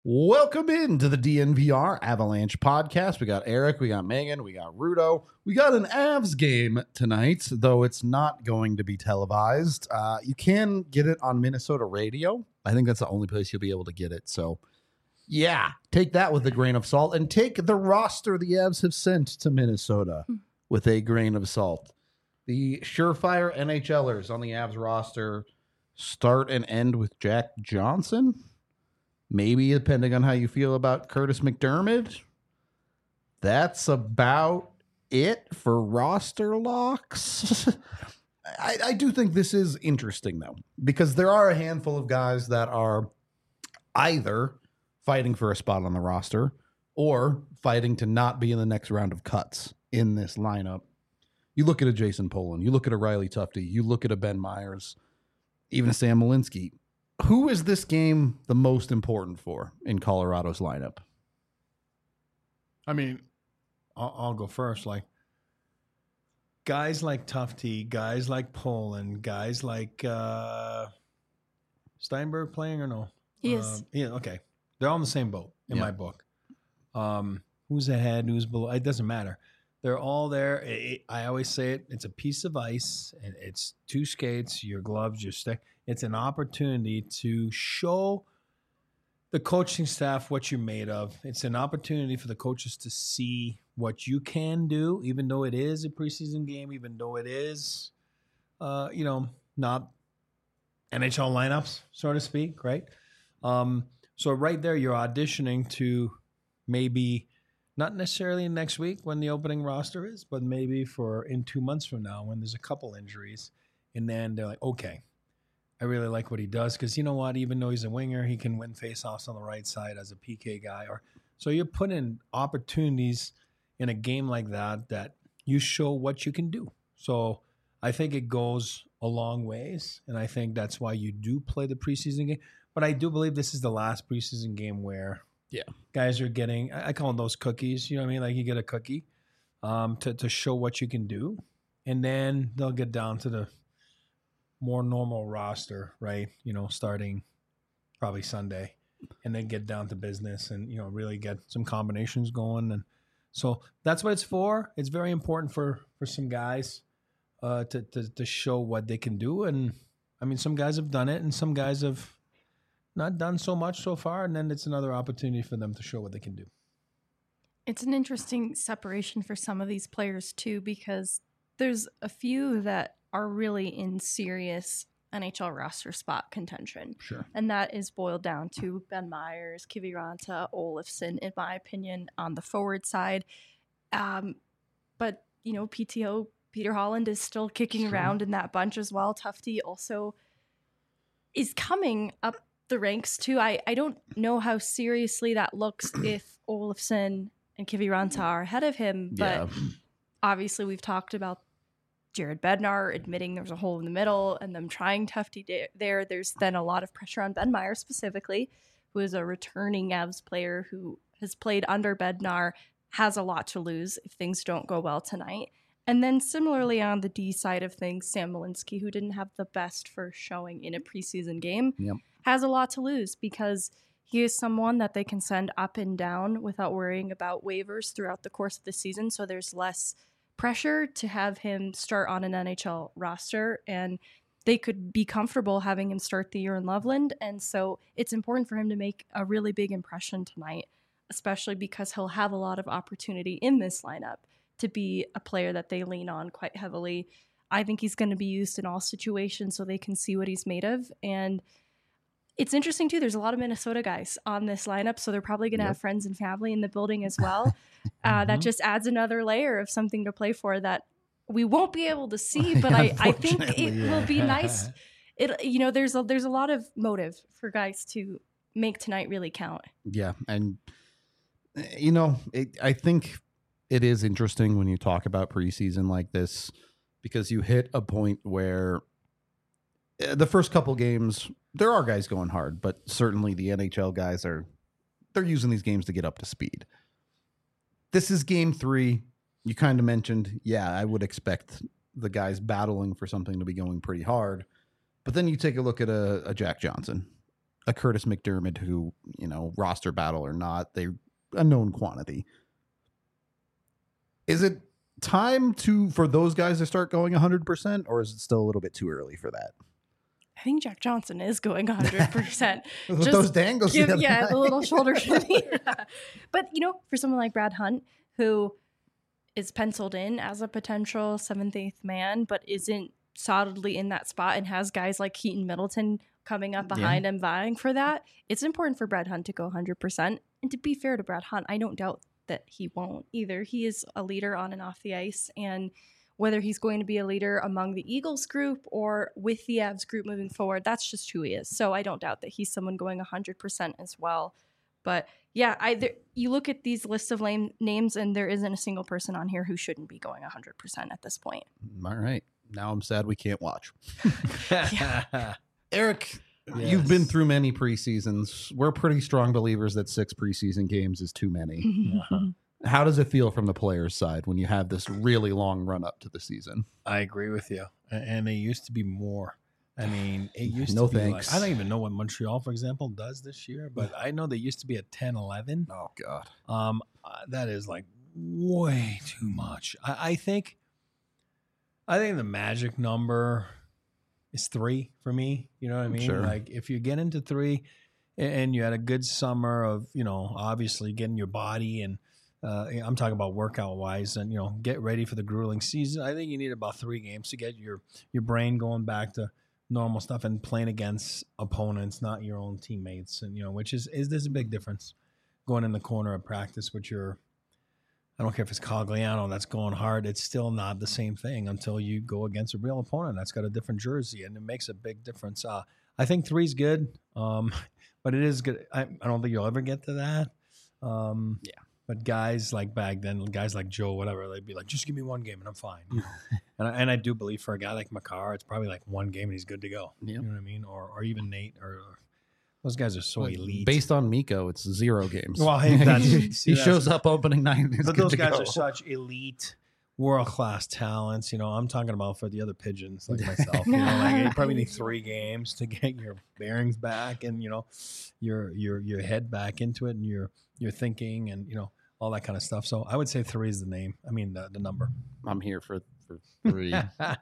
Welcome into the DNVR Avalanche podcast. We got Eric, we got Megan, we got Rudo. We got an Avs game tonight, though it's not going to be televised. You can get it on Minnesota radio. I think that's the only place you'll be able to get it. So, yeah, take that with a grain of salt and take the roster the Avs have sent to Minnesota with a grain of salt. The surefire NHLers on the Avs roster start and end with Jack Johnson. Maybe depending on how you feel about Curtis McDermott. That's about it for roster locks. I do think this is interesting, though, because there are a handful of guys that are either fighting for a spot on the roster or fighting to not be in the next round of cuts in this lineup. You look at a Jason Poland, you look at a Riley Tufte, you look at a Ben Myers, even a Sam Malinsky. Who is this game the most important for in Colorado's lineup? I mean, I'll go first. Like guys like Tufte, guys like Poland, guys like Steinberg playing or no? He is. Yeah, okay. They're all in the same boat in my book. Who's ahead, who's below? It doesn't matter. They're all there. I always say it. It's a piece of ice, and it's two skates, your gloves, your stick. It's an opportunity to show the coaching staff what you're made of. It's an opportunity for the coaches to see what you can do, even though it is a preseason game, even though it is, not NHL lineups, so to speak, right? So right there, you're auditioning to maybe not necessarily next week when the opening roster is, but maybe for in 2 months from now when there's a couple injuries. And then they're like, okay, I really like what he does because you know what? Even though he's a winger, he can win faceoffs on the right side as a PK guy. So you're putting opportunities in a game like that you show what you can do. So I think it goes a long ways, and I think that's why you do play the preseason game. But I do believe this is the last preseason game where guys are getting, I call them those cookies, you know what I mean? Like you get a cookie to show what you can do, and then they'll get down to the more normal roster, right? Starting probably Sunday, and then get down to business and, really get some combinations going. And so that's what it's for. It's very important for some guys to show what they can do. And I mean, some guys have done it and some guys have not done so much so far. And then it's another opportunity for them to show what they can do. It's an interesting separation for some of these players too, because there's a few that are really in serious NHL roster spot contention. Sure. And that is boiled down to Ben Myers, Kiviranta, Olofsson, in my opinion, on the forward side. But, PTO, Peter Holland is still kicking around in that bunch as well. Tufte also is coming up the ranks too. I don't know how seriously that looks if Olofsson and Kiviranta are ahead of him, but obviously we've talked about Jared Bednar admitting there's a hole in the middle and them trying Tufte there. There's then a lot of pressure on Ben Myers specifically, who is a returning Avs player who has played under Bednar, has a lot to lose if things don't go well tonight. And then similarly on the D side of things, Sam Malinsky, who didn't have the best first showing in a preseason game, has a lot to lose because he is someone that they can send up and down without worrying about waivers throughout the course of the season. So there's less pressure to have him start on an NHL roster, and they could be comfortable having him start the year in Loveland. And so it's important for him to make a really big impression tonight, especially because he'll have a lot of opportunity in this lineup to be a player that they lean on quite heavily. I think he's going to be used in all situations so they can see what he's made of. And it's interesting, too. There's a lot of Minnesota guys on this lineup, so they're probably going to have friends and family in the building as well. That just adds another layer of something to play for that we won't be able to see, but I think it will be nice. There's a lot of motive for guys to make tonight really count. Yeah, and, I think it is interesting when you talk about preseason like this because you hit a point where the first couple games, there are guys going hard, but certainly the NHL guys they're using these games to get up to speed. This is game 3. You kind of mentioned, I would expect the guys battling for something to be going pretty hard. But then you take a look at a Jack Johnson a Curtis McDermott who, roster battle or not, they're a known quantity. Is it time for those guys to start going 100%, or is it still a little bit too early for that? I think Jack Johnson is going 100%. With those dangles. The little shoulder shimmy. But, for someone like Brad Hunt, who is penciled in as a potential 7th, 8th man, but isn't solidly in that spot and has guys like Keaton Middleton coming up behind him vying for that, it's important for Brad Hunt to go 100%. And to be fair to Brad Hunt, I don't doubt that he won't either. He is a leader on and off the ice, and whether he's going to be a leader among the Eagles group or with the Avs group moving forward, that's just who he is. So I don't doubt that he's someone going 100% as well. But yeah, you look at these lists of names, and there isn't a single person on here who shouldn't be going 100% at this point. All right. Now I'm sad we can't watch. Eric, you've been through many preseasons. We're pretty strong believers that 6 preseason games is too many. How does it feel from the players' side when you have this really long run up to the season? I agree with you. And it used to be more. I mean, it used no to be thanks. I don't even know what Montreal, for example, does this year, but I know they used to be at 10-11. Oh, God. That is like way too much. I think the magic number is 3 for me. You know what I mean? Sure. Like if you get into 3 and you had a good summer of, obviously getting your body and I'm talking about workout wise and, get ready for the grueling season. I think you need about 3 games to get your brain going back to normal stuff and playing against opponents, not your own teammates. And, which is there's a big difference going in the corner of practice with I don't care if it's Cogliano that's going hard. It's still not the same thing until you go against a real opponent that's got a different jersey, and it makes a big difference. I think 3 is good, but it is good. I don't think you'll ever get to that. But guys like back then, guys like Joe, whatever, they'd be like, just give me 1 game and I'm fine. And I do believe for a guy like Makar, it's probably like 1 game and he's good to go. Yep. You know what I mean? Or even Nate or those guys are so elite. Based on Miko, it's 0 games. Well, he shows up opening night. But those guys are such elite, world-class talents. I'm talking about for the other pigeons like myself. You probably need 3 games to get your bearings back and, your head back into it and your thinking and, all that kind of stuff. So I would say 3 is the number. I'm here for 3.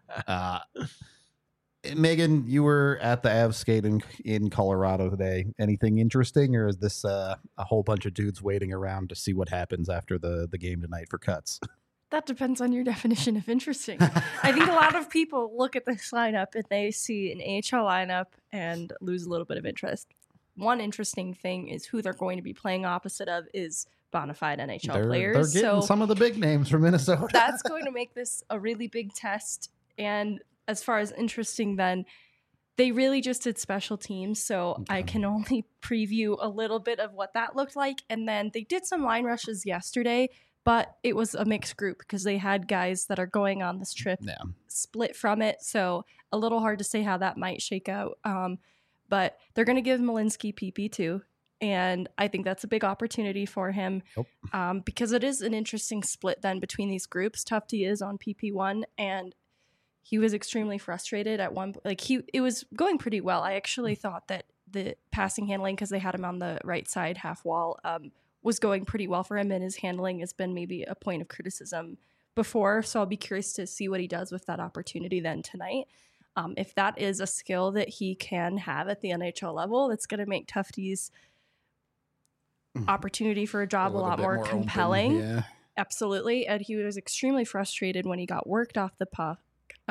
Megan, you were at the Avs skate in Colorado today. Anything interesting, or is this a whole bunch of dudes waiting around to see what happens after the game tonight for cuts? That depends on your definition of interesting. I think a lot of people look at this lineup and they see an AHL lineup and lose a little bit of interest. One interesting thing is who they're going to be playing opposite of is bona fide NHL players. They're getting some of the big names from Minnesota. That's going to make this a really big test. And as far as interesting, then they really just did special teams. So okay. I can only preview a little bit of what that looked like. And then they did some line rushes yesterday, but it was a mixed group because they had guys that are going on this trip split from it. So a little hard to say how that might shake out. But they're going to give Malinsky PP too. And I think that's a big opportunity for him because it is an interesting split then between these groups. Tufte is on PP1 and he was extremely frustrated at one. It was going pretty well. I actually thought that the passing handling, because they had him on the right side half wall, was going pretty well for him. And his handling has been maybe a point of criticism before. So I'll be curious to see what he does with that opportunity then tonight. If that is a skill that he can have at the NHL level, that's going to make Tufte's opportunity for a job a lot more compelling. Yeah. Absolutely. And he was extremely frustrated when he got worked off the puck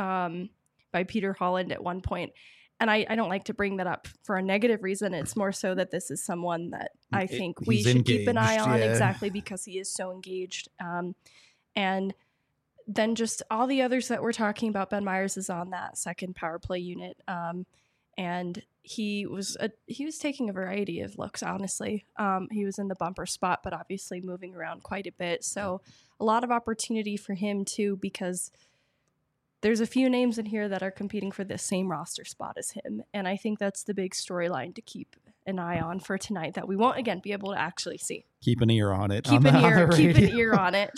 by Peter Holland at one point. And I don't like to bring that up for a negative reason. It's more so that this is someone that I think we should keep an eye on exactly because he is so engaged. And then just all the others that we're talking about, Ben Myers is on that second power play unit. And he was taking a variety of looks, honestly. He was in the bumper spot, but obviously moving around quite a bit. So a lot of opportunity for him too, because there's a few names in here that are competing for the same roster spot as him. And I think that's the big storyline to keep an eye on for tonight that we won't, again, be able to actually see. Keep an ear on it. Keep an ear on it.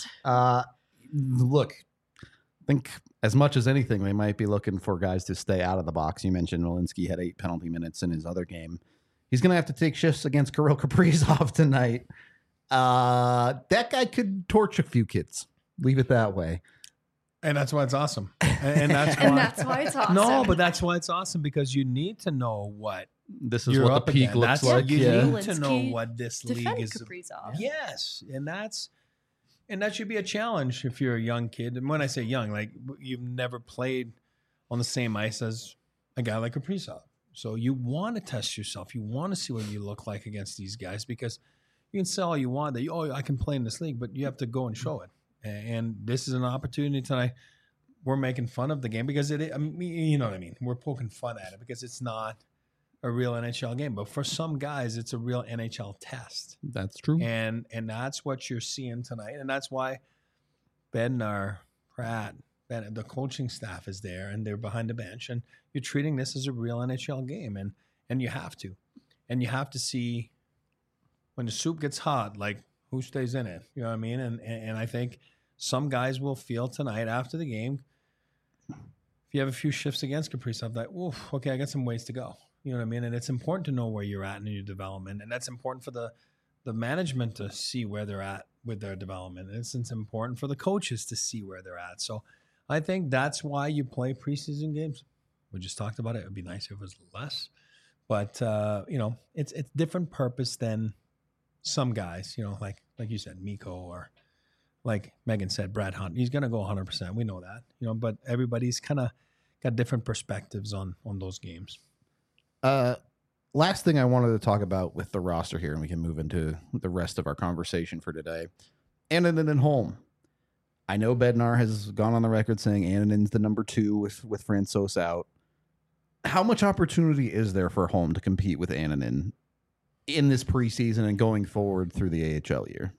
Look, I think as much as anything, they might be looking for guys to stay out of the box. You mentioned Malinsky had 8 penalty minutes in his other game. He's going to have to take shifts against Kirill Kaprizov tonight. That guy could torch a few kids. Leave it that way. And that's why it's awesome. And that's why, And that's why it's awesome. No, but that's why it's awesome, because you need to know what This is you're what up the peak against. looks That's like. You Yeah. need to know Zelensky what this league defend is. Kaprizov. Yes, and that should be a challenge if you're a young kid. And when I say young, like you've never played on the same ice as a guy like Kaprizov. So you want to test yourself. You want to see what you look like against these guys, because you can say all you want that, I can play in this league, but you have to go and show it. And this is an opportunity tonight. We're making fun of the game because you know what I mean? We're poking fun at it because it's not a real NHL game. But for some guys, it's a real NHL test. That's true. And that's what you're seeing tonight. And that's why Bednar, Pratt, the coaching staff is there, and they're behind the bench. And you're treating this as a real NHL game. And you have to. And you have to see when the soup gets hot, like who stays in it. You know what I mean? And I think some guys will feel tonight after the game, if you have a few shifts against Kaprizov, like, oof, okay, I got some ways to go. You know what I mean? And it's important to know where you're at in your development. And that's important for the management to see where they're at with their development. And it's important for the coaches to see where they're at. So I think that's why you play preseason games. We just talked about it. It would be nice if it was less. But, it's different purpose than some guys, like you said, Mikko, or like Megan said, Brad Hunt. He's going to go 100%. We know that, but everybody's kind of got different perspectives on those games. Last thing I wanted to talk about with the roster here, and we can move into the rest of our conversation for today. Annunen and Holm. I know Bednar has gone on the record saying Annunen's the number 2 with Francouz out. How much opportunity is there for Holm to compete with Annunen in this preseason and going forward through the AHL year?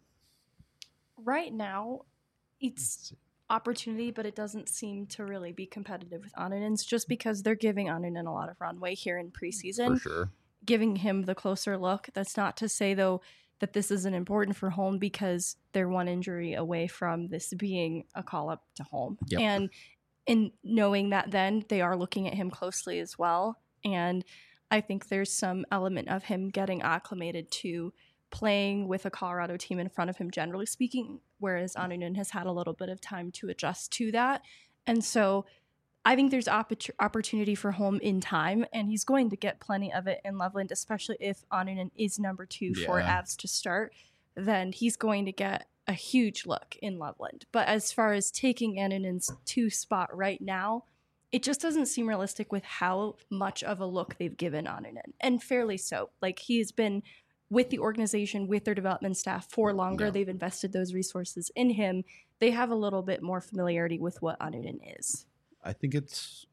Right now, it's opportunity, but it doesn't seem to really be competitive with Annunen's, just because they're giving Annunen a lot of runway here in preseason. For sure. Giving him the closer look. That's not to say, though, that this isn't important for Holm, because they're one injury away from this being a call-up to Holm. Yep. And in knowing that, then they are looking at him closely as well. And I think there's some element of him getting acclimated to playing with a Colorado team in front of him, generally speaking, whereas Annunen has had a little bit of time to adjust to that. And so I think there's opportunity for Holm in time, and he's going to get plenty of it in Loveland, especially if Annunen is number 2 for Avs to start. Then he's going to get a huge look in Loveland. But as far as taking Annunen's 2 spot right now, it just doesn't seem realistic with how much of a look they've given Annunen, and fairly so. Like, he has been with the organization, with their development staff for longer. Yeah. They've invested those resources in him. They have a little bit more familiarity with what Annunen is. I think it's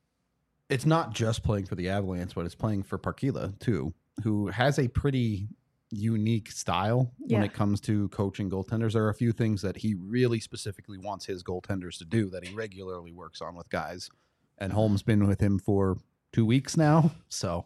not just playing for the Avalanche, but it's playing for Parkila too, who has a pretty unique style when it comes to coaching goaltenders. There are a few things that he really specifically wants his goaltenders to do that he regularly works on with guys. And Holm's been with him for 2 weeks now, so.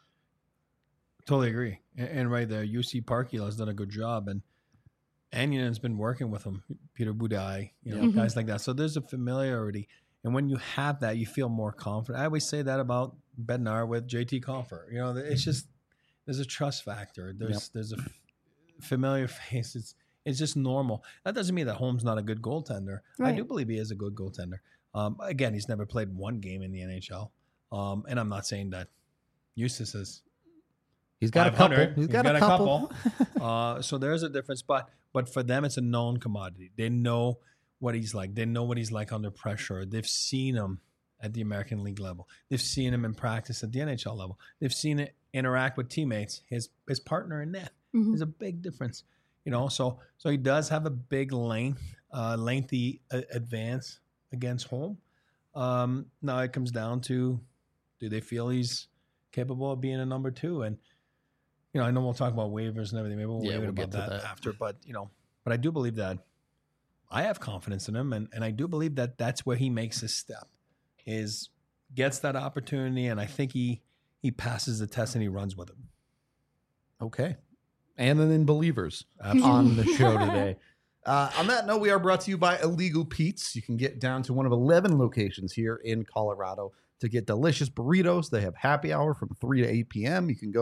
Totally agree. And right there, UC Parkila has done a good job, and Annunen's been working with him, Peter Budaj, guys like that. So there's a familiarity. And when you have that, you feel more confident. I always say that about Bednar with JT Compher. It's just, there's a trust factor. There's a familiar face. It's just normal. That doesn't mean that Holm's not a good goaltender. Right. I do believe he is a good goaltender. Again, he's never played one game in the NHL. And I'm not saying that Eustace is. He's got a couple. He's got a couple. So there's a difference. But for them, it's a known commodity. They know what he's like. They know what he's like under pressure. They've seen him at the American League level. They've seen him in practice at the NHL level. They've seen it interact with teammates, his partner in net. Mm-hmm. There's a big difference. So he does have a big lengthy advance against Holm. Now it comes down to, do they feel he's capable of being a number 2? And I know we'll talk about waivers and everything. Maybe we'll wait about that after. But but I do believe that I have confidence in him, and I do believe that that's where he makes his step, is gets that opportunity, and I think he passes the test and he runs with it. Okay. And then Believers on the show today. On that note, we are brought to you by Illegal Pete's. You can get down to one of 11 locations here in Colorado to get delicious burritos. They have happy hour from 3 to 8 p.m. You can go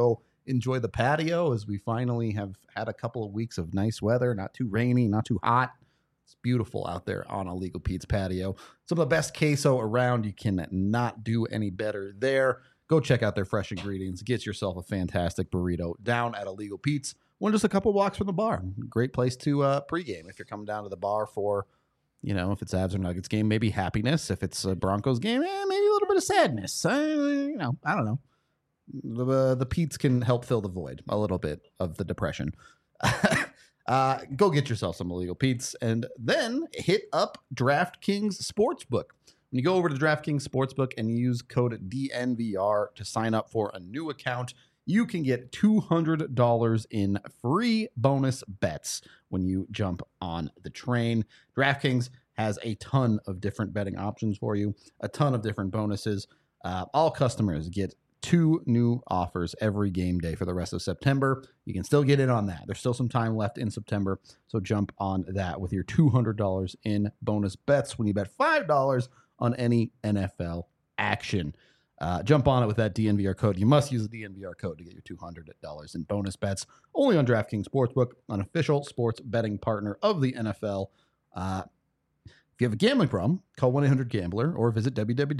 enjoy the patio as we finally have had a couple of weeks of nice weather, not too rainy, not too hot. It's beautiful out there on Illegal Pete's patio. Some of the best queso around. You can not do any better there. Go check out their fresh ingredients. Get yourself a fantastic burrito down at Illegal Pete's. One just a couple walks from the bar. Great place to pregame if you're coming down to the bar for, if it's Avs or Nuggets game, maybe happiness. If it's a Broncos game, maybe a little bit of sadness. I don't know. The Pete's can help fill the void a little bit of the depression. Go get yourself some Illegal Pete's and then hit up DraftKings Sportsbook. When you go over to DraftKings Sportsbook and use code DNVR to sign up for a new account, you can get $200 in free bonus bets when you jump on the train. DraftKings has a ton of different betting options for you, a ton of different bonuses. All customers get 2 new offers every game day for the rest of September. You can still get in on that. There's still some time left in September, so jump on that with your $200 in bonus bets when you bet $5 on any NFL action. Jump on it with that DNVR code. You must use the DNVR code to get your $200 in bonus bets. Only on DraftKings Sportsbook, an official sports betting partner of the NFL. If you have a gambling problem, call 1-800-GAMBLER or visit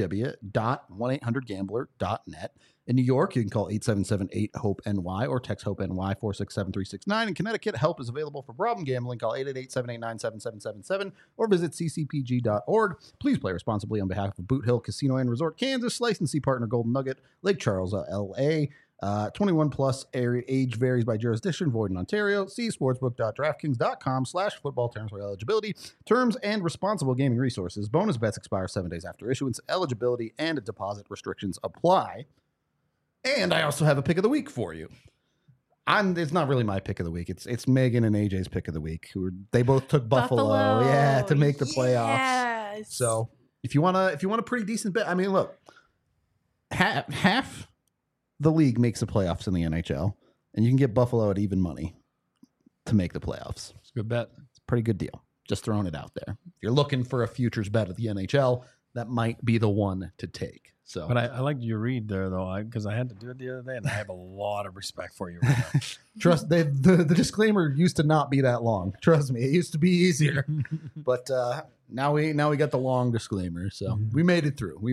www.1800gambler.net. In New York, you can call 877-8-HOPE-NY or text HOPE-NY 467-3669. In Connecticut, help is available for problem gambling. Call 888-789-7777 or visit ccpg.org. Please play responsibly on behalf of Boot Hill Casino and Resort, Kansas. Licensee partner Golden Nugget, Lake Charles, LA. 21 plus, age varies by jurisdiction, void in Ontario. See sportsbook.draftkings.com/football terms for eligibility, terms, and responsible gaming resources. Bonus bets expire 7 days after issuance. Eligibility and deposit restrictions apply. And I also have a pick of the week for you. It's not really my pick of the week. It's Megan and AJ's pick of the week. They both took Buffalo, to make the playoffs. Yes. So if you want a pretty decent bet, I mean, look, half the league makes the playoffs in the NHL, and you can get Buffalo at even money to make the playoffs. It's a good bet. It's a pretty good deal. Just throwing it out there. If you're looking for a futures bet at the NHL, that might be the one to take. So, but I liked your read there, though, because I had to do it the other day, and I have a lot of respect for you right now. Trust, the disclaimer used to not be that long. Trust me, it used to be easier. But now we got the long disclaimer, so we made it through.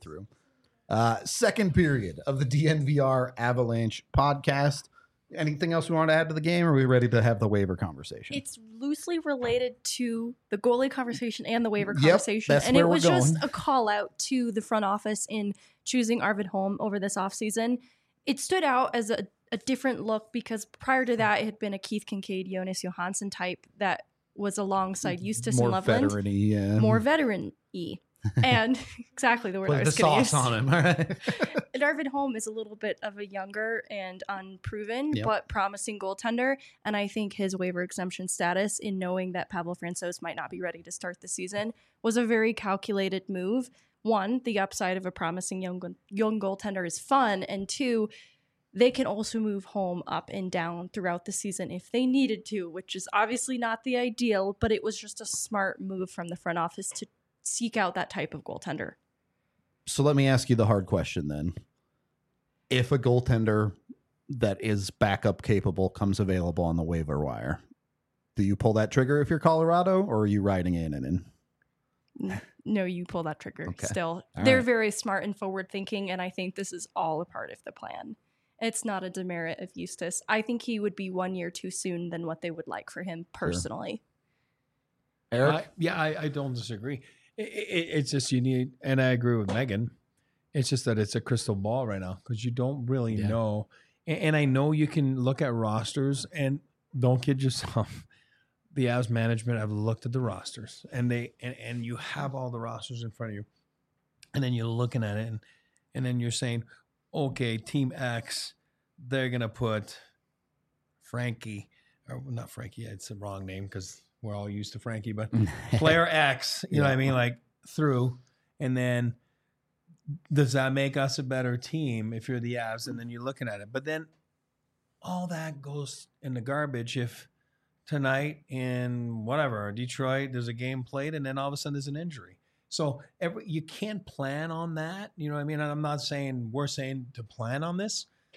Second period of the DNVR Avalanche podcast. Anything else we want to add to the game, or are we ready to have the waiver conversation? It's loosely related to the goalie conversation and the waiver conversation. That's and where it was we're going. just a call out to the front office in choosing Arvid Holm over this offseason. It stood out as a different look because prior to that, it had been a Keith Kincaid, Jonas Johansson type that was alongside Eustace and Loveland. More veteran-y. And exactly the word I was going to use. Put the sauce on him. All right. And Arvid Holm is a little bit of a younger and unproven, but promising goaltender. And I think his waiver exemption status in knowing that Pavel Francouz might not be ready to start the season was a very calculated move. One, the upside of a promising young goaltender is fun. And two, they can also move Holm up and down throughout the season if they needed to, which is obviously not the ideal, but it was just a smart move from the front office to seek out that type of goaltender. So let me ask you the hard question then. If a goaltender that is backup capable comes available on the waiver wire, do you pull that trigger if you're Colorado, or are you riding in? No, you pull that trigger. Okay. Still. All They're right. very smart and forward thinking, and I think this is all a part of the plan. It's not a demerit of Eustace. I think he would be 1 year too soon than what they would like for him personally. Sure. Eric? I don't disagree. It's just you need, and I agree with Megan. It's just that it's a crystal ball right now because you don't really know. And I know you can look at rosters and don't kid yourself. The Avs management have looked at the rosters and and you have all the rosters in front of you. And then you're looking at it and then you're saying, okay, Team X, they're going to put Frankie, or not Frankie, it's the wrong name because we're all used to Frankie, but player X, you know what I mean? Like through, and then does that make us a better team if you're the Avs? And then you're looking at it. But then all that goes in the garbage if tonight in whatever, Detroit, there's a game played and then all of a sudden there's an injury. So you can't plan on that. You know what I mean? I'm not saying we're saying to plan on this.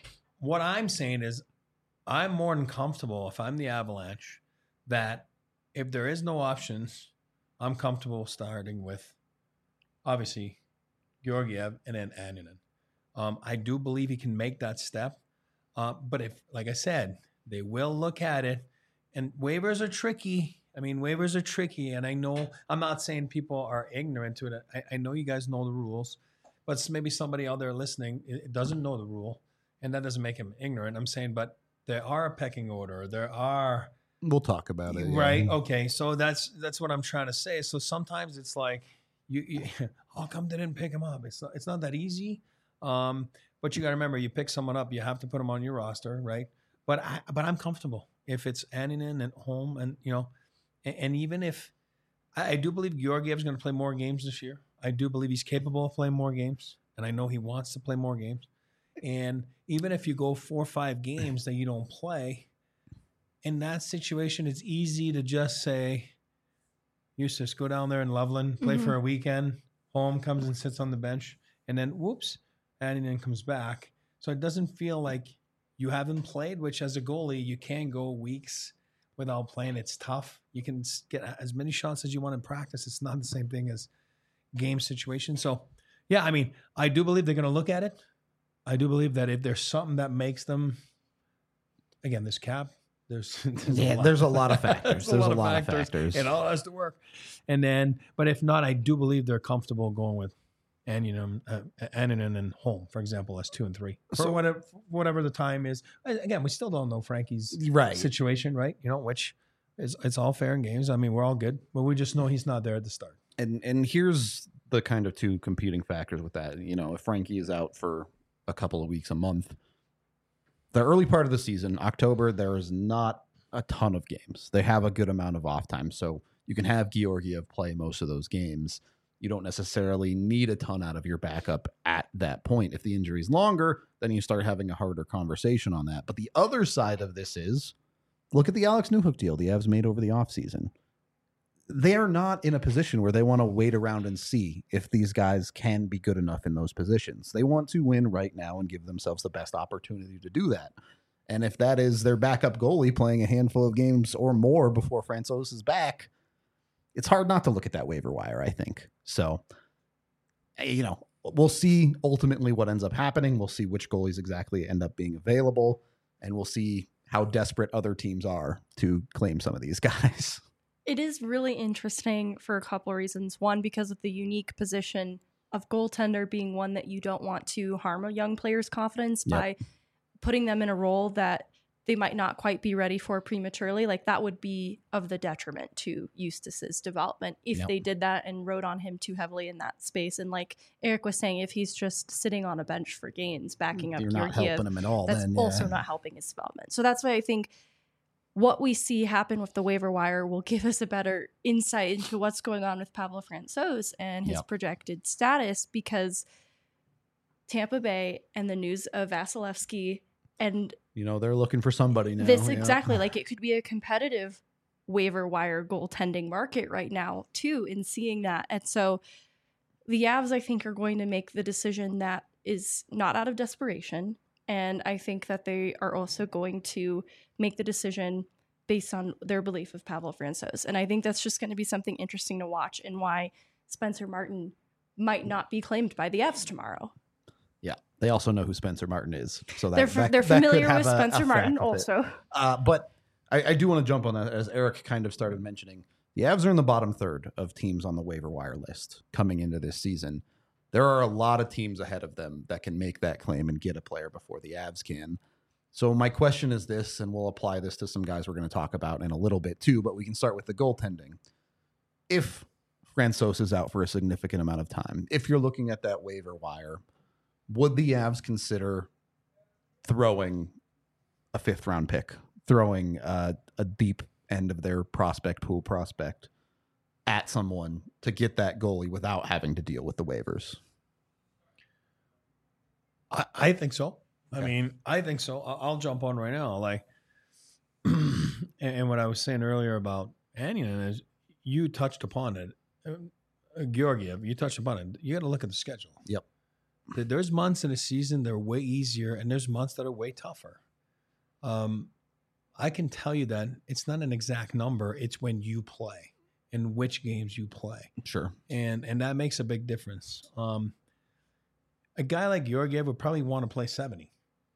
what I'm saying is I'm more than comfortable if I'm the Avalanche that if there is no options, I'm comfortable starting with obviously Georgiev and then Annunen. I do believe he can make that step. But if, like I said, they will look at it, and waivers are tricky. I mean, waivers are tricky, and I know I'm not saying people are ignorant to it. I know you guys know the rules, but maybe somebody out there listening doesn't know the rule, and that doesn't make him ignorant. I'm saying, but there are a pecking order. There are. We'll talk about it. Right. Yeah. Okay. So that's what I'm trying to say. So sometimes it's like, you how come they didn't pick him up? It's not that easy. But you got to remember, you pick someone up, you have to put them on your roster, right? But I'm comfortable if it's Annunen and Holm, and and even if I do believe Georgiev's going to play more games this year. I do believe he's capable of playing more games, and I know he wants to play more games. And even if you go 4 or 5 games that you don't play, in that situation, it's easy to just say, Eustace, go down there in Loveland, play for a weekend. Holm comes and sits on the bench, and then whoops, Annunen comes back. So it doesn't feel like you haven't played, which as a goalie, you can go weeks without playing. It's tough. You can get as many shots as you want in practice. It's not the same thing as game situation. So, yeah, I mean, I do believe they're going to look at it. I do believe that if there's something that makes them, again, this cap, there's a lot of factors. There's a lot of factors. It all has to work. And then, but if not, I do believe they're comfortable going with Annunen and Holm, for example, as 2 and 3. So whatever the time is. Again, we still don't know Frankie's situation, right? Which is, it's all fair in games. I mean, we're all good, but we just know he's not there at the start. And here's the kind of 2 competing factors with that. If Frankie is out for a couple of weeks, a month, the early part of the season, October, there is not a ton of games. They have a good amount of off time. So you can have Georgiev play most of those games. You don't necessarily need a ton out of your backup at that point. If the injury is longer, then you start having a harder conversation on that. But the other side of this is, look at the Alex Newhook deal the Avs made over the offseason. They are not in a position where they want to wait around and see if these guys can be good enough in those positions. They want to win right now and give themselves the best opportunity to do that. And if that is their backup goalie playing a handful of games or more before Francouz is back, it's hard not to look at that waiver wire, I think. So, we'll see ultimately what ends up happening. We'll see which goalies exactly end up being available, and we'll see how desperate other teams are to claim some of these guys. It is really interesting for a couple of reasons. One, because of the unique position of goaltender being one that you don't want to harm a young player's confidence by putting them in a role that they might not quite be ready for prematurely. Like, that would be of the detriment to Eustace's development if they did that and rode on him too heavily in that space. And like Eric was saying, if he's just sitting on a bench for games, backing up You're not helping him at all. That's also not helping his development. So that's why I think what we see happen with the waiver wire will give us a better insight into what's going on with Pavel Francouz and his projected status, because Tampa Bay and the news of Vasilevsky and they're looking for somebody now. Exactly. Like, it could be a competitive waiver wire goaltending market right now too, in seeing that. And so the Avs, I think, are going to make the decision that is not out of desperation. And I think that they are also going to make the decision based on their belief of Pavel Francouz. And I think that's just going to be something interesting to watch, and why Spencer Martin might not be claimed by the Avs tomorrow. Yeah, they also know who Spencer Martin is, so they're familiar with Spencer Martin also. But I do want to jump on that, as Eric kind of started mentioning. The Avs are in the bottom third of teams on the waiver wire list coming into this season. There are a lot of teams ahead of them that can make that claim and get a player before the Avs can. So my question is this, and we'll apply this to some guys we're going to talk about in a little bit too, but we can start with the goaltending. If Francouz is out for a significant amount of time, if you're looking at that waiver wire, would the Avs consider throwing a 5th round pick, throwing a deep end of their prospect pool prospect at someone to get that goalie without having to deal with the waivers? I think so. Okay. I mean, I think so. I'll jump on right now. Like, and what I was saying earlier about Annunen is, you touched upon it. Georgiev, you touched upon it. You got to look at the schedule. Yep. There's months in a season that are way easier, and there's months that are way tougher. I can tell you that it's not an exact number. It's when you play and which games you play. Sure. And that makes a big difference. A guy like Georgiev would probably want to play 70.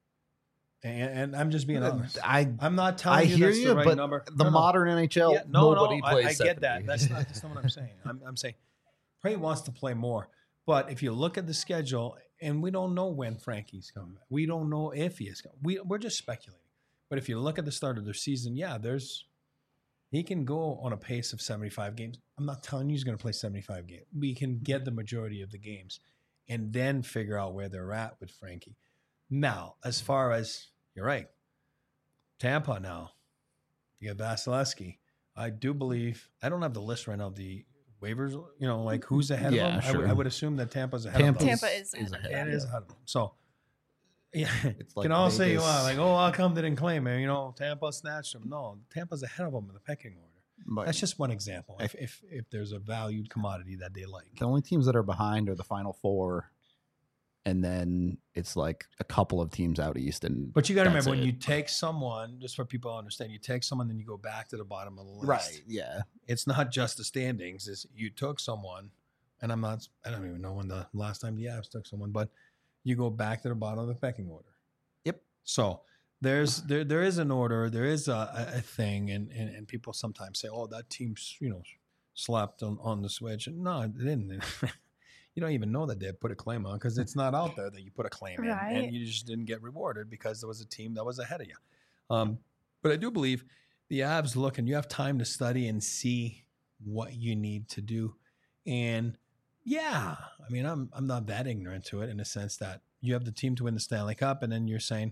And I'm just being honest. I'm not telling you that's the right number. The modern NHL, nobody plays I 70. get that. That's not what I'm saying. I'm saying probably wants to play more. But if you look at the schedule, and we don't know when Frankie's coming back. We don't know if he is coming. We're just speculating. But if you look at the start of their season, he can go on a pace of 75 games. I'm not telling you he's going to play 75 games. We can get the majority of the games and then figure out where they're at with Frankie. Now, as far as, you're right, Tampa now, you got Vasilevsky. I do believe, I don't have the list right now of the waivers, like who's ahead of them. Sure. I would assume that Tampa's ahead of them. Tampa is ahead. It is ahead of them. So, yeah, It's like can all say you Vegas. want, like, how come they didn't claim him? Tampa snatched him. No, Tampa's ahead of them in the pecking order. But That's just one example. If there's a valued commodity that they like. the only teams that are behind are the Final Four, and then it's like a couple of teams out east. But you got to That's remember, when it. you take someone, just for people to understand, you take someone, then you go back to the bottom of the list. Right, yeah. It's not just the standings. It's you took someone, and I don't even know when the last time the Avs took someone, but you go back to the bottom of the pecking order. Yep. So there is an order, there is a thing, and people sometimes say, that team's slapped on the switch. And no, they didn't. You don't even know that they put a claim on because it's not out there that you put a claim in, and you just didn't get rewarded because there was a team that was ahead of you. But I do believe the Avs look, and you have time to study and see what you need to do. And yeah, I mean, I'm not that ignorant to it in the sense that you have the team to win the Stanley Cup, and then you're saying,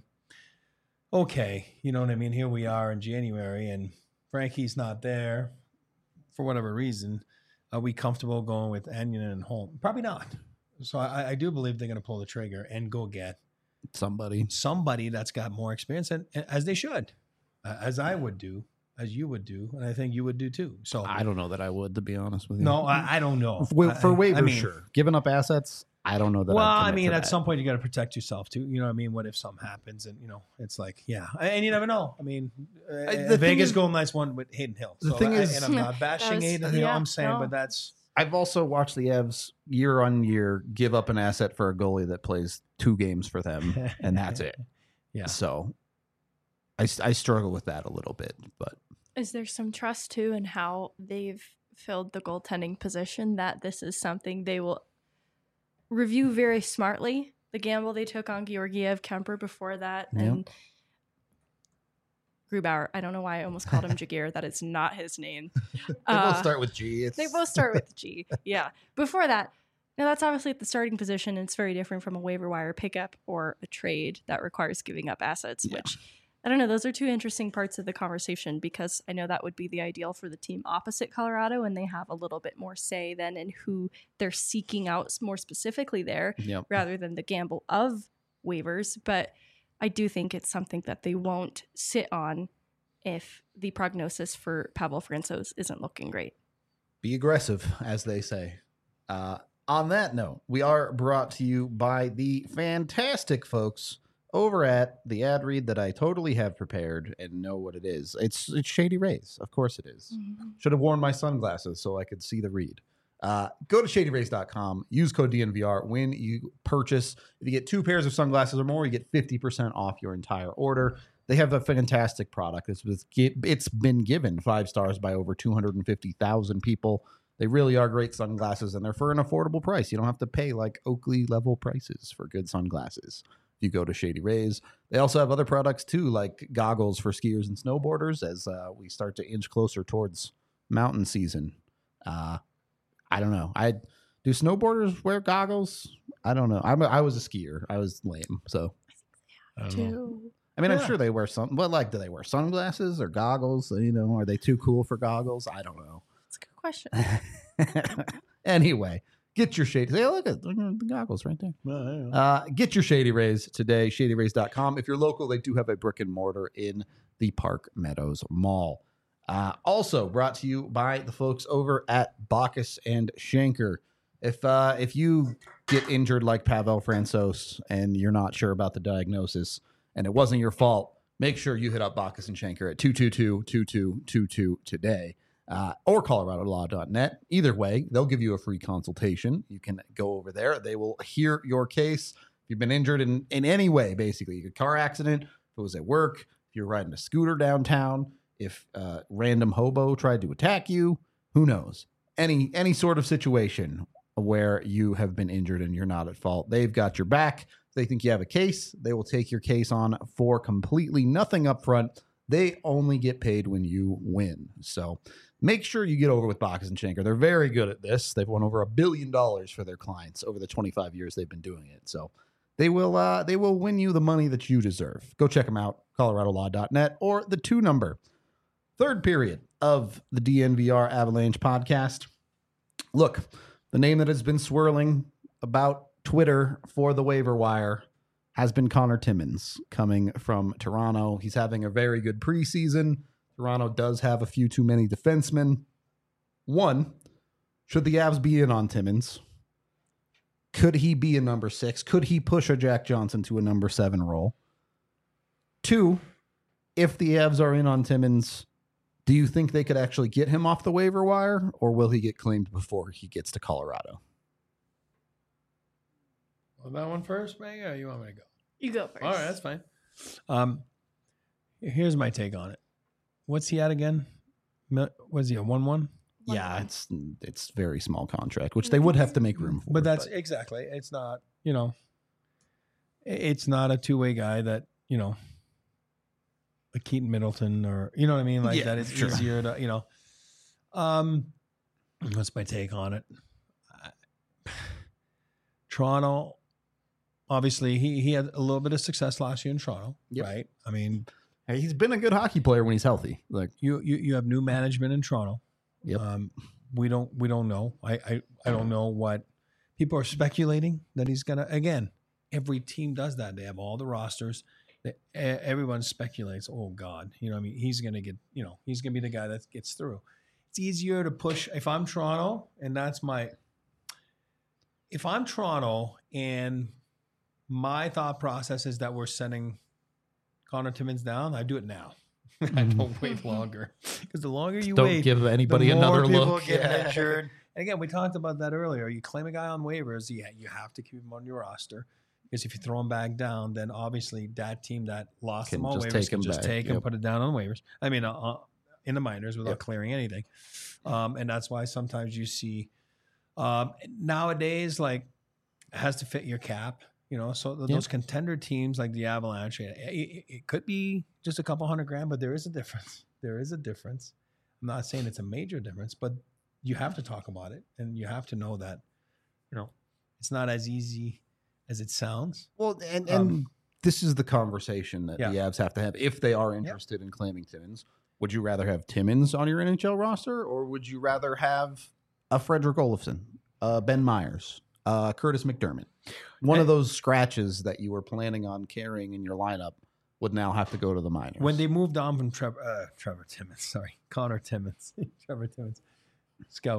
okay, you know what I mean? Here we are in January, and Frankie's not there for whatever reason. Are we comfortable going with Anion and Holm? Probably not. So I do believe they're going to pull the trigger and go get somebody that's got more experience, and as they should, as I would do, as you would do, and I think you would do too. So I don't know that I would, to be honest with you. no, I don't know. For waivers, I mean, sure. Giving up assets, I don't know that. Well, I'd I mean, commit at to some point you got to protect yourself too. You know what I mean? What if something happens and it's like, yeah, and you never know. I mean, the thing Vegas is- Golden Knights won with Hayden Hill. The thing is- and I'm not bashing Hayden Hill. I'm saying, but that's I've also watched the Avs year on year give up an asset for a goalie that plays 2 games for them, and that's it. Yeah. So I struggle with that a little bit, but Is there some trust too in how they've filled the goaltending position that this is something they will review very smartly? The gamble they took on Georgiev, Kemper before that, and Grubauer. I don't know why I almost called him Jagir. That is not his name. they both start with G. They both start with G. Yeah. Before that, now that's obviously at the starting position. And it's very different from a waiver wire pickup or a trade that requires giving up assets, which I don't know. Those are two interesting parts of the conversation because I know that would be the ideal for the team opposite Colorado, and they have a little bit more say then in who they're seeking out more specifically there rather than the gamble of waivers. But I do think it's something that they won't sit on if the prognosis for Pavel Francouz isn't looking great. Be aggressive, as they say. On that note, we are brought to you by the fantastic folks over at the ad read that I totally have prepared and know what it is. It's Shady Rays. Of course it is. Mm-hmm. Should have worn my sunglasses so I could see the read. Go to shadyrays.com. Use code DNVR when you purchase. If you get 2 pairs of sunglasses or more, you get 50% off your entire order. They have a fantastic product. It's been given 5 stars by over 250,000 people. They really are great sunglasses, and they're for an affordable price. You don't have to pay like Oakley level prices for good sunglasses. If you go to Shady Rays, they also have other products too, like goggles for skiers and snowboarders as we start to inch closer towards mountain season. I don't know. Do snowboarders wear goggles? I don't know. I was a skier. I was lame. So I don't know. I mean, I'm sure they wear some. But like, do they wear sunglasses or goggles? You know, are they too cool for goggles? I don't know. That's a good question. Anyway, get your Shady. Hey, look at the goggles right there. Well, yeah. Get your Shady Rays today. ShadyRays.com. If you're local, they do have a brick and mortar in the Park Meadows Mall. Also brought to you by the folks over at Bacchus and Schenker. If you get injured like Pavel Francouz and you're not sure about the diagnosis and it wasn't your fault, make sure you hit up Bacchus and Schenker at 222-2222 today. Or coloradolaw.net. Either way, they'll give you a free consultation. You can go over there. They will hear your case. If you've been injured in any way, basically, a car accident, if it was at work, if you're riding a scooter downtown, if a random hobo tried to attack you, who knows? Any sort of situation where you have been injured and you're not at fault, they've got your back. If they think you have a case, they will take your case on for completely nothing up front. They only get paid when you win. So make sure you get over with Bacchus and Schenker. They're very good at this. They've won over $1 billion for their clients over the 25 years they've been doing it. So they will win you the money that you deserve. Go check them out, coloradolaw.net or the 2 number. Third period of the DNVR Avalanche podcast. Look, the name that has been swirling about Twitter for the waiver wire has been Connor Timmins coming from Toronto. He's having a very good preseason. Toronto does have a few too many defensemen. 1, should the Avs be in on Timmins? Could he be a number 6? Could he push a Jack Johnson to a number 7 role? 2, if the Avs are in on Timmins, do you think they could actually get him off the waiver wire, or will he get claimed before he gets to Colorado? Well, that one first, Meg, or you want me to go? You go first. All right, that's fine. Here's my take on it. What's he at again? Was he a 1-1? Yeah, it's very small contract, which they would have to make room for. But that's exactly. It's not, it's not a two-way guy that, a Keaton Middleton or, you know what I mean? Like that is sure. Easier to, what's my take on it? Toronto, obviously he had a little bit of success last year in Toronto, right? I mean, hey, he's been a good hockey player when he's healthy. Like you have new management in Toronto. Yep. We don't know. I don't know what people are speculating that he's gonna. Again, every team does that. They have all the rosters. Everyone speculates. Oh God, I mean, he's gonna get. He's gonna be the guy that gets through. It's easier to push. If I'm Toronto, and that's my. If I'm Toronto, and my thought process is that we're sending Connor Timmins down, I do it now. I don't wait longer, because the longer you don't wait, give anybody another look. Get injured. And again, we talked about that earlier. You claim a guy on waivers, you have to keep him on your roster, because if you throw him back down, then obviously that team that lost him on waivers can just take him, put it down on waivers. I mean, in the minors without clearing anything. And that's why sometimes you see nowadays, like, it has to fit your cap. So those contender teams like the Avalanche, it could be just a couple $100,000, but there is a difference. There is a difference. I'm not saying it's a major difference, but you have to talk about it, and you have to know that, it's not as easy as it sounds. Well, and this is the conversation that the Avs have to have if they are interested in claiming Timmins. Would you rather have Timmins on your NHL roster, or would you rather have a Frederick Olofsson, Ben Myers, Curtis McDermott? One of those scratches that you were planning on carrying in your lineup would now have to go to the minors. When they moved on from Trevor Timmins, Connor Timmins, Trevor Timmins, scout.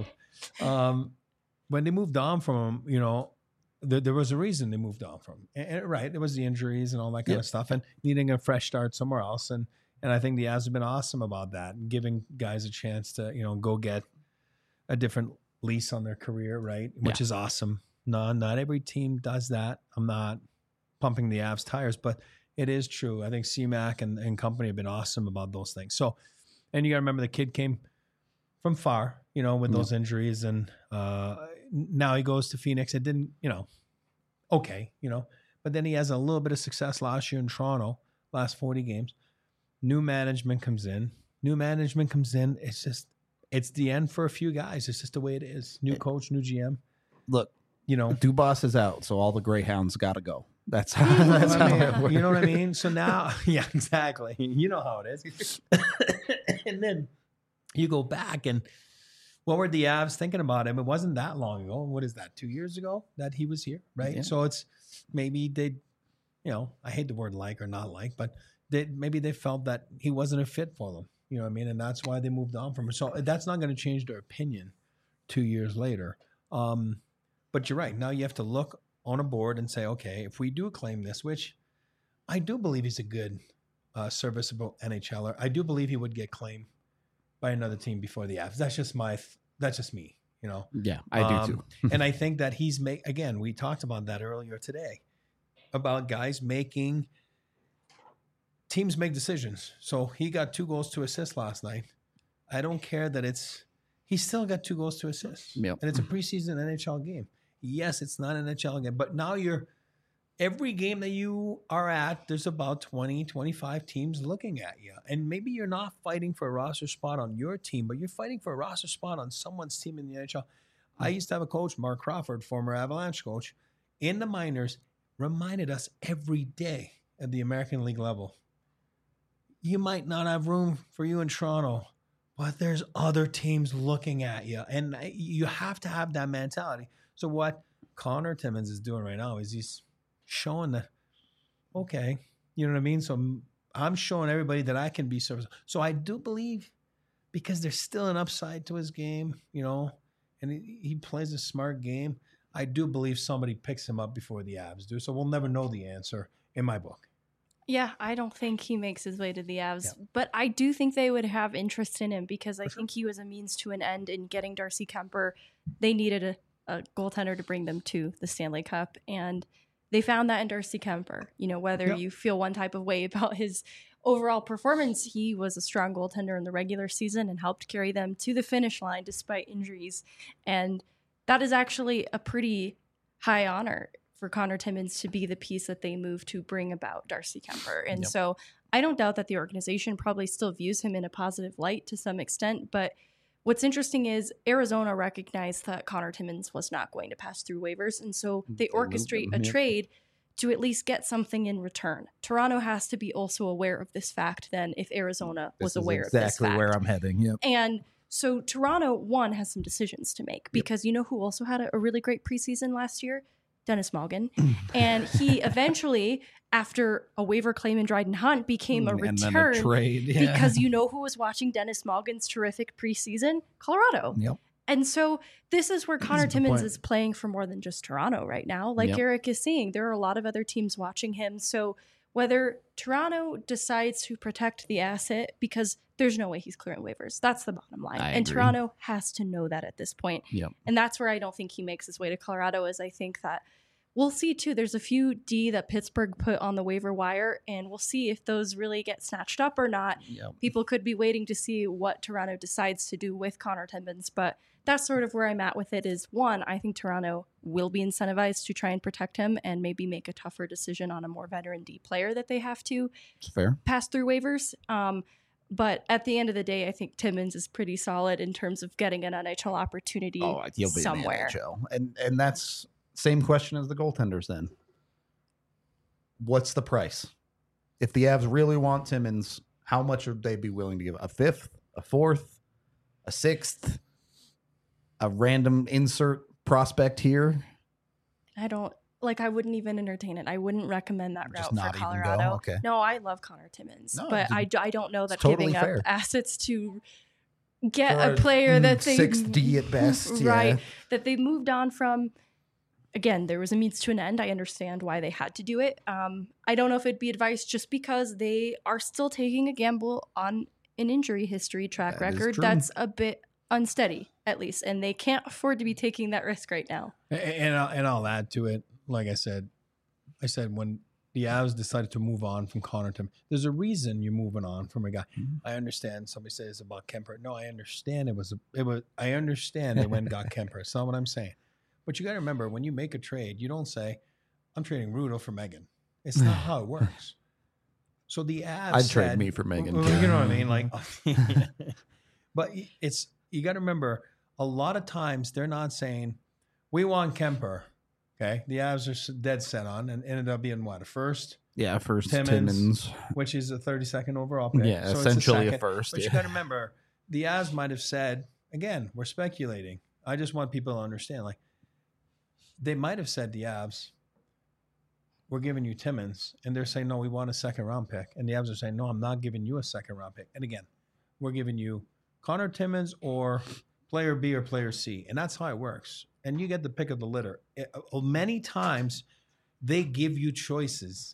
When they moved on from him, there was a reason they moved on from him. And right, there was the injuries and all that kind of stuff, and needing a fresh start somewhere else. And I think the Avs have been awesome about that, and giving guys a chance to go get a different lease on their career, right? Which is awesome. No, not every team does that. I'm not pumping the Avs tires, but it is true. I think CMAC and company have been awesome about those things. So, and you got to remember the kid came from far, with those injuries, and now he goes to Phoenix. It didn't, okay, but then he has a little bit of success last year in Toronto, last 40 games. New management comes in. It's the end for a few guys. It's just the way it is. New coach, new GM. Look, Dubas is out, so all the Greyhounds got to go. That's how it works. You know what I mean? So now, exactly. You know how it is. And then you go back, and what were the Avs thinking about him? It wasn't that long ago. What is that, 2 years ago that he was here, right? Yeah. So it's maybe they, I hate the word like or not like, but maybe they felt that he wasn't a fit for them. You know what I mean? And that's why they moved on from him. So that's not going to change their opinion 2 years later. But you're right. Now you have to look on a board and say, okay, if we do claim this, which I do believe he's a good, serviceable NHLer, I do believe he would get claimed by another team before the Avs. That's just me, you know? Yeah, I do too. And I think that again, we talked about that earlier today, about guys teams make decisions. So he got 2 goals to assist last night. I don't care that he still got 2 goals to assist. Yep. And it's a preseason NHL game. Yes, it's not an NHL game, but now every game that you are at, there's about 20, 25 teams looking at you. And maybe you're not fighting for a roster spot on your team, but you're fighting for a roster spot on someone's team in the NHL. I used to have a coach, Mark Crawford, former Avalanche coach, in the minors, reminded us every day at the American League level, you might not have room for you in Toronto, but there's other teams looking at you. And you have to have that mentality. So what Connor Timmins is doing right now is he's showing that, okay, you know what I mean? So I'm showing everybody that I can be serviceable. So I do believe, because there's still an upside to his game, you know, and he plays a smart game, I do believe somebody picks him up before the Avs do. So we'll never know the answer in my book. Yeah, I don't think he makes his way to the Avs, but I do think they would have interest in him because I think he was a means to an end in getting Darcy Kemper. They needed a goaltender to bring them to the Stanley Cup, and they found that in Darcy Kemper. You know, whether you feel one type of way about his overall performance, he was a strong goaltender in the regular season and helped carry them to the finish line despite injuries. And that is actually a pretty high honor for Connor Timmins to be the piece that they move to bring about Darcy Kemper. And so I don't doubt that the organization probably still views him in a positive light to some extent. But what's interesting is Arizona recognized that Connor Timmins was not going to pass through waivers. And so they orchestrate a trade to at least get something in return. Toronto has to be also aware of this fact then if Arizona was aware of this fact. Exactly where I'm heading. Yep. And so Toronto, one, has some decisions to make because you know who also had a really great preseason last year? Dennis Malgin. And he eventually, after a waiver claim in Dryden Hunt, became a return trade, because you know who was watching Dennis Malgin's terrific preseason? Colorado. Yep. And so this is where Connor Timmins is playing for more than just Toronto right now. Like Eric is saying, there are a lot of other teams watching him. So whether Toronto decides to protect the asset, because there's no way he's clearing waivers. That's the bottom line. And Toronto has to know that at this point. Yep. And that's where I don't think he makes his way to Colorado, is I think that we'll see too. There's a few D that Pittsburgh put on the waiver wire, and we'll see if those really get snatched up or not. Yep. People could be waiting to see what Toronto decides to do with Connor Timmins, but that's sort of where I'm at with it is, one, I think Toronto will be incentivized to try and protect him and maybe make a tougher decision on a more veteran D player that they have to pass through waivers. But at the end of the day, I think Timmins is pretty solid in terms of getting an NHL opportunity somewhere. In the NHL. And that's same question as the goaltenders then. What's the price? If the Avs really want Timmins, how much would they be willing to give? A fifth, a fourth, a sixth, a random insert prospect here? I wouldn't even entertain it. I wouldn't recommend that route for Colorado. Even go? Okay. No, I love Connor Timmins, but I don't know that totally giving fair. up assets to get a player that they 6D at best, right? That they moved on from. Again, there was a means to an end. I understand why they had to do it. I don't know if it'd be advice just because they are still taking a gamble on an injury history track record that's a bit unsteady, at least, and they can't afford to be taking that risk right now. And I'll add to it. Like I said when the Avs decided to move on from Connor Timmins, there's a reason you're moving on from a guy. Mm-hmm. I understand somebody says it's about Kemper. No, I understand I understand they went and got Kemper. That's not what I'm saying. But you got to remember, when you make a trade, you don't say, I'm trading Rudo for Megan. It's not how it works. So the Avs I'd trade me for Megan. You know what I mean? Like, but you got to remember, a lot of times they're not saying, we want Kemper. Okay. The Avs are dead set on and ended up being what? A first? Yeah, first Timmins. Which is a 32nd overall pick. Yeah, so essentially a first. But you got to remember, the Avs might have said, again, we're speculating. I just want people to understand, like, they might have said the Avs, we're giving you Timmins, and they're saying, no, we want a second-round pick. And the Avs are saying, no, I'm not giving you a second-round pick. And again, we're giving you Connor Timmins or player B or player C. And that's how it works. and you get the pick of the litter. Many times they give you choices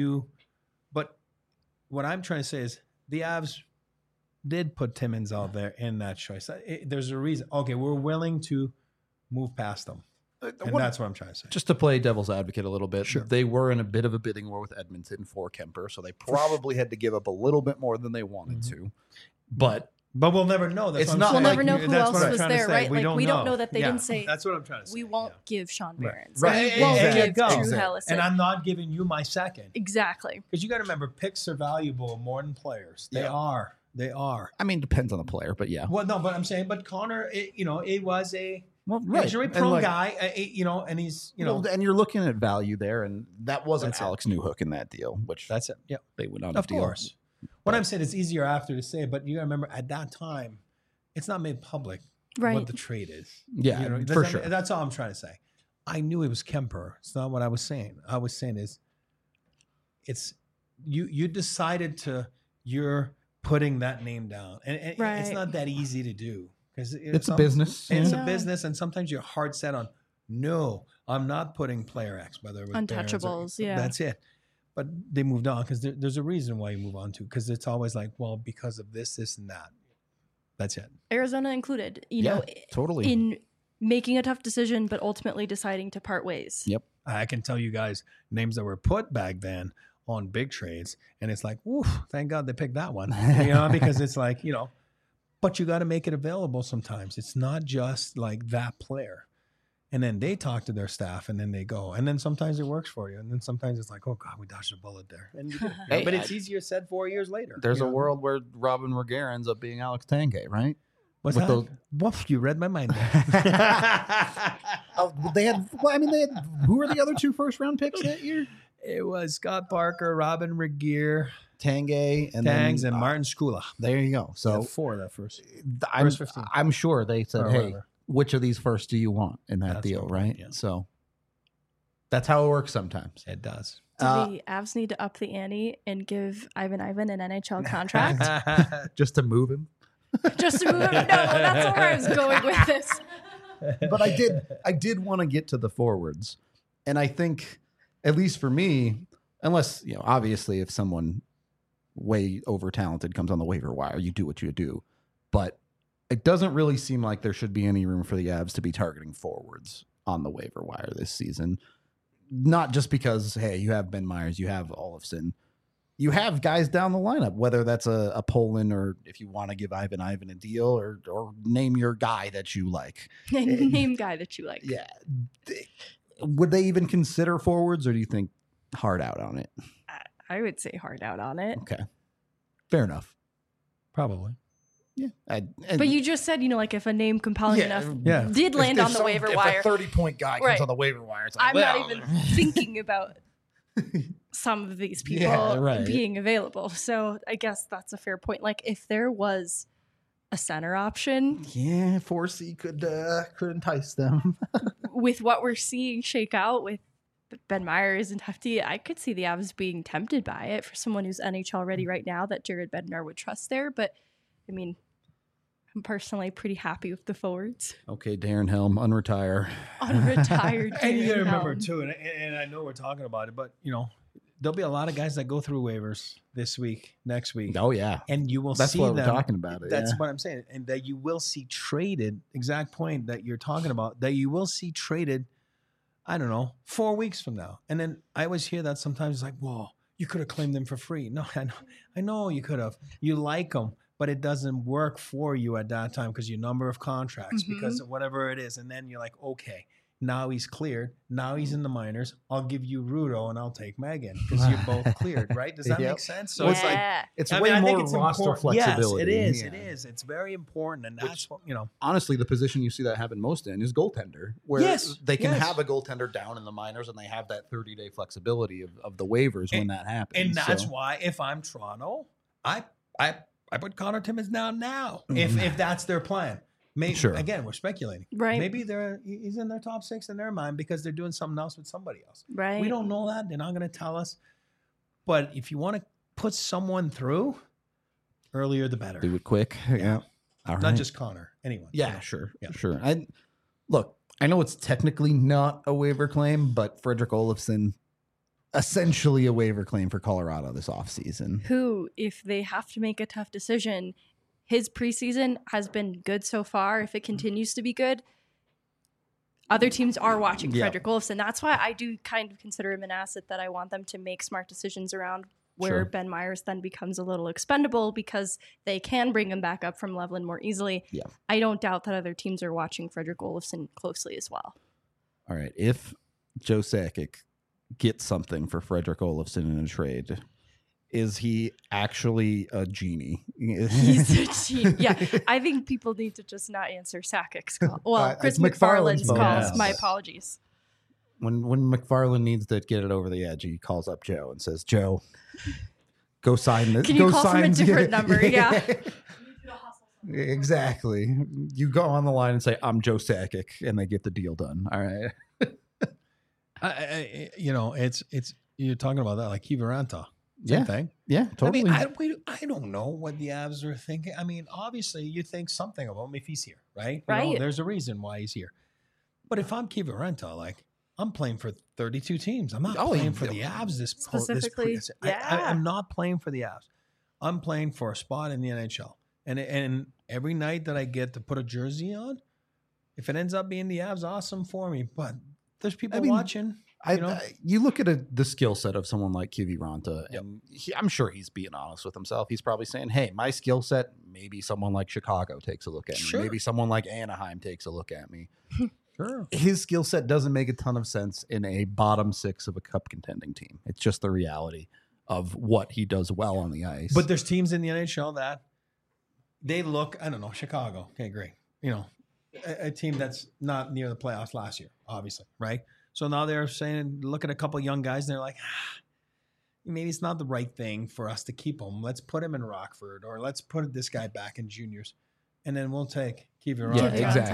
but what I'm trying to say is the Avs did put Timmins out there in that choice. There's a reason. Okay, we're willing to move past them. And that's what I'm trying to say. Just to play devil's advocate a little bit, Sure. they were in a bit of a bidding war with Edmonton for Kemper, so they probably had to give up a little bit more than they wanted to. But we'll never know. That's It's what not I'm We'll saying. never know who That's else what I'm was trying to there, say. right? We don't know that they didn't say. That's what I'm trying to say. We won't give Sean Behrens. Right. We won't There you give go. Drew Exactly. Helleson. And I'm not giving you my second. Exactly. Because you got to remember, picks are valuable more than players. They are. They are. I mean, depends on the player, but yeah. Well, no, but I'm saying, but Connor, it was a Well, injury-prone guy, and he's, and you're looking at value there, and that wasn't That's it. Alex Newhook in that deal, which that's it. Yeah, they would not have of deal. course. What I'm saying, it's easier after to say, but you got to remember, at that time, it's not made public Right. what the trade is. Yeah, for sure. That's all I'm trying to say. I knew it was Kemper. It's not what I was saying. I was saying is, it's you decided you're putting that name down, and it's Right. not that easy to do because It's a business. It's Yeah. a business, and sometimes you're hard set on. No, I'm not putting player X, whether it was Barons or- Untouchables, yeah. that's it. But they moved on because there's a reason why you move on to, because it's always like, well, because of this, and that. That's it. Arizona included, Totally. in making a tough decision, but ultimately deciding to part ways. Yep. I can tell you guys names that were put back then on big trades, and it's like, woof, thank God they picked that one. Because it's like, but you got to make it available sometimes. It's not just like that player. And then they talk to their staff, and then they go. And then sometimes it works for you. And then sometimes it's like, oh, God, we dodged a bullet there. And you do. Hey, But it's easier said 4 years later. There's a world where Robin Regehr ends up being Alex Tanguay, right? What's with that? Woof, you read my mind there. They had. Who were the other 2 first-round picks that year? It was Scott Parker, Robin Regehr, Tanguay, and Tangs, then, and Martin Skula. There you go. So 4 that first. I'm, First 15. I'm sure they said, Or "Hey, whatever. which of these first do you want in that That's deal?" what- Right. yeah. So that's how it works sometimes. It does. Do the Avs need to up the ante and give Ivan an NHL contract Just to move him. just to move him? No, that's where I was going with this. But I did want to get to the forwards, and I think, at least for me, unless obviously if someone way over talented comes on the waiver wire, you do what you do, but it doesn't really seem like there should be any room for the Avs to be targeting forwards on the waiver wire this season. Not just because, hey, you have Ben Myers, you have Olofsson, you have guys down the lineup, whether that's a Poland or if you want to give Ivan a deal or name your guy that you like. Name guy that you like. Yeah. Would they even consider forwards, or do you think hard out on it? I would say hard out on it. Okay. Fair enough. Probably. Yeah. But you just said, like if a name compelling enough did land on the waiver wire. If a 30-point guy comes on the waiver wire, it's like, I'm not even thinking about some of these people being available. So I guess that's a fair point. Like if there was a center option. Yeah, 4C could entice them. With what we're seeing shake out with Ben Myers and Hefty, I could see the Avs being tempted by it for someone who's NHL ready right now that Jared Bednar would trust there. But I mean, I'm personally pretty happy with the forwards. Okay, Darren Helm, unretire. Unretired. And you got to Darren remember Helm. too, and I know we're talking about it, but there'll be a lot of guys that go through waivers this week, next week. Oh yeah, and you will That's see what them. we're talking about. That's what I'm saying, and that you will see traded. Exact point that you're talking about. That you will see traded. I don't know, 4 weeks from now. And then I always hear that sometimes, like, "Whoa, you could have claimed them for free." No, I know you could have. You like them, but it doesn't work for you at that time because your number of contracts, because of whatever it is. And then you're like, okay, now he's cleared. Now he's in the minors. I'll give you Rudo and I'll take Megan because you're both cleared, right? Does that make sense? So it's like, it's I way mean, I think more it's roster important. flexibility. Yes, it is. Yeah. It is. It's very important, and that's what Honestly, the position you see that happen most in is goaltender, where they can yes. have a goaltender down in the minors and they have that 30-day flexibility of the waivers when that happens. And that's why if I'm Toronto, I put Connor Timmins down now if that's their plan. Maybe again, we're speculating. Right. Maybe he's in their top 6 in their mind because they're doing something else with somebody else. Right. We don't know that. They're not going to tell us. But if you want to put someone through, earlier the better. do it quick. Yeah. All Not right. just Connor. Anyone. Yeah, sure. Yeah. Sure. Look, I know it's technically not a waiver claim, but Frederick Olofsson, essentially a waiver claim for Colorado this offseason. Who, if they have to make a tough decision, his preseason has been good so far. If it continues to be good, other teams are watching Frederick Olofsson. That's why I do kind of consider him an asset that I want them to make smart decisions around, where Ben Myers then becomes a little expendable because they can bring him back up from Loveland more easily. Yeah. I don't doubt that other teams are watching Frederick Olofsson closely as well. All right. If Joe Sakic gets something for Frederick Olofsson in a trade, is he actually a genie? He's a genie. Yeah. I think people need to just not answer Sakic's call. Well, Chris McFarland's calls. My apologies. When McFarland needs to get it over the edge, he calls up Joe and says, "Joe, go sign this. Can you call from a different number?" Yeah. Exactly. You go on the line and say, "I'm Joe Sakic," and they get the deal done. All right. It's you're talking about that like Kiviranta. Same thing. Yeah, totally. I mean, I don't know what the Avs are thinking. I mean, obviously, you think something of him if he's here, right? You know, there's a reason why he's here. But if I'm Kiviranta, like, I'm playing for 32 teams. I'm not playing for the Avs specifically. I'm not playing for the Avs. I'm playing for a spot in the NHL. And every night that I get to put a jersey on, if it ends up being the Avs, awesome for me. But there's people watching. You look at the skill set of someone like Kiviranta, and I'm sure he's being honest with himself. He's probably saying, "Hey, my skill set, maybe someone like Chicago takes a look at me. Maybe someone like Anaheim takes a look at me." Sure. His skill set doesn't make a ton of sense in a bottom six of a cup contending team. It's just the reality of what he does well on the ice. But there's teams in the NHL that they look, I don't know, Chicago. Okay, great. You know, a team that's not near the playoffs last year, obviously, right? So now they're saying, look at a couple of young guys, and they're like, maybe it's not the right thing for us to keep him. Let's put him in Rockford, or let's put this guy back in juniors, and then we'll take Kiviranta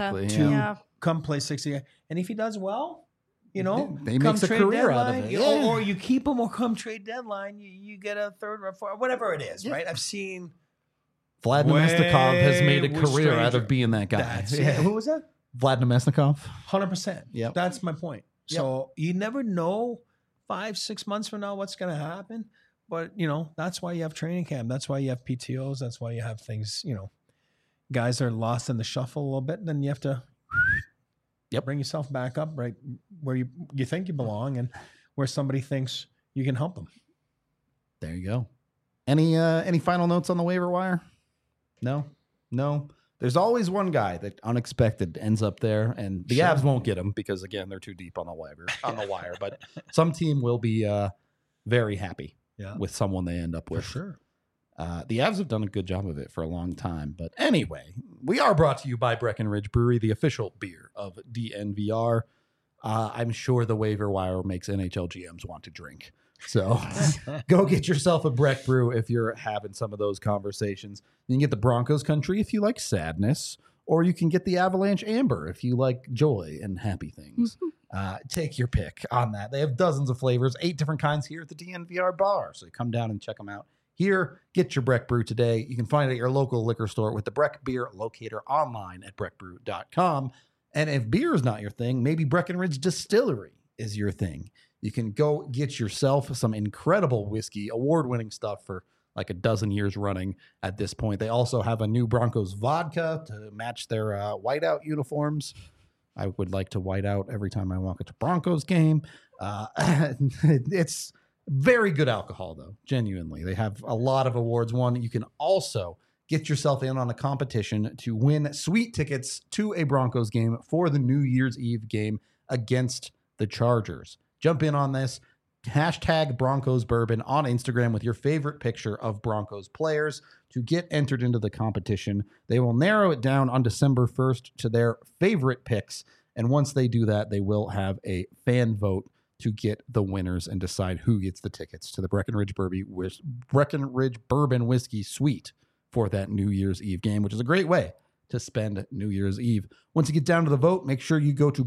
to come play 60. And if he does well, you know, he makes a career out of it. Or you keep him, or come trade deadline, you get a third or fourth, whatever it is, right? I've seen Vlad Namestnikov has made a career out of being that guy. Who was that? Vlad Namestnikov. 100%. Yeah, that's my point. So you never know 5-6 months from now what's going to happen. But, you know, that's why you have training camp. That's why you have PTOs. That's why you have things, you know, guys are lost in the shuffle a little bit. And then you have to bring yourself back up right where you think you belong and where somebody thinks you can help them. There you go. Any final notes on the waiver wire? No. There's always one guy that unexpected ends up there, and the Avs won't get him because, again, they're too deep on the wire. But some team will be very happy with someone they end up with. For sure. The Avs have done a good job of it for a long time. But anyway, we are brought to you by Breckenridge Brewery, the official beer of DNVR. I'm sure the waiver wire makes NHL GMs want to drink. So go get yourself a Breck Brew if you're having some of those conversations. You can get the Broncos Country if you like sadness, or you can get the Avalanche Amber if you like joy and happy things. Take your pick on that. They have dozens of flavors, 8 different kinds here at the DNVR bar. So come down and check them out here. Get your Breck Brew today. You can find it at your local liquor store with the Breck Beer Locator online at breckbrew.com. And if beer is not your thing, maybe Breckenridge Distillery is your thing. You can go get yourself some incredible whiskey, award-winning stuff for like a dozen years running at this point. They also have a new Broncos vodka to match their whiteout uniforms. I would like to white out every time I walk into a Broncos game. It's very good alcohol, though, genuinely. They have a lot of awards won. You can also get yourself in on a competition to win sweet tickets to a Broncos game for the New Year's Eve game against the Chargers. Jump in on this. Hashtag Broncos Bourbon on Instagram with your favorite picture of Broncos players to get entered into the competition. They will narrow it down on December 1st to their favorite picks. And once they do that, they will have a fan vote to get the winners and decide who gets the tickets to the Breckenridge Bourbon Whiskey Suite for that New Year's Eve game, which is a great way to spend New Year's Eve. Once you get down to the vote, make sure you go to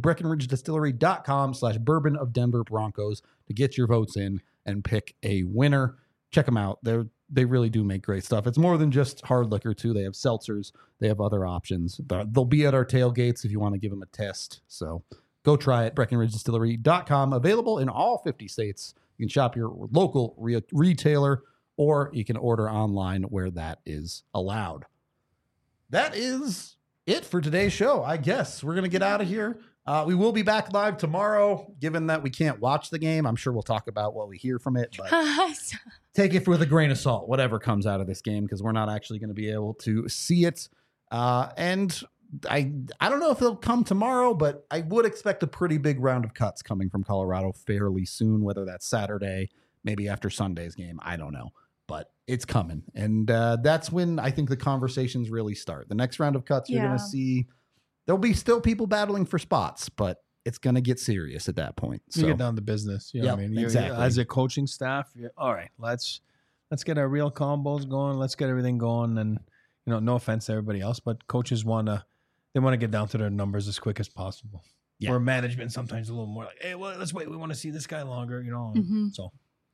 BreckenridgeDistillery.com/Bourbon of Denver Broncos to get your votes in and pick a winner. Check them out. They're they really do make great stuff. It's more than just hard liquor too. They have seltzers. They have other options. They'll be at our tailgates if you want to give them a test. So go try it. BreckenridgeDistillery.com. Available in all 50 states. You can shop your local retailer, or you can order online where that is allowed. That is it for today's show. I guess we're going to get out of here. We will be back live tomorrow, given that we can't watch the game. I'm sure we'll talk about what we hear from it, but take it with a grain of salt, whatever comes out of this game, because we're not actually going to be able to see it. And I don't know if they'll come tomorrow, but I would expect a pretty big round of cuts coming from Colorado fairly soon, whether that's Saturday, maybe after Sunday's game. I don't know, but it's coming. And that's when I think the conversations really start. The next round of cuts, you're going to see, there'll be still people battling for spots, but it's going to get serious at that point. So you get down to business. You know what I mean? Exactly. As a coaching staff, all right, let's get our real combos going. Let's get everything going. And, no offense to everybody else, but coaches want to get down to their numbers as quick as possible. Yeah. Or management sometimes a little more like, hey, well, let's wait. We want to see this guy longer, So,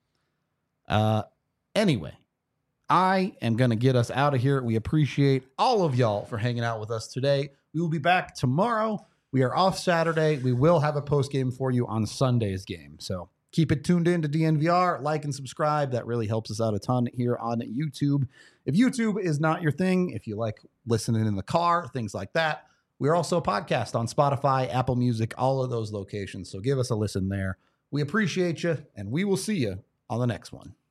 anyway, I am going to get us out of here. We appreciate all of y'all for hanging out with us today. We will be back tomorrow. We are off Saturday. We will have a post game for you on Sunday's game. So keep it tuned in to DNVR. Like and subscribe. That really helps us out a ton here on YouTube. If YouTube is not your thing, if you like listening in the car, things like that, we're also a podcast on Spotify, Apple Music, all of those locations. So give us a listen there. We appreciate you, and we will see you on the next one.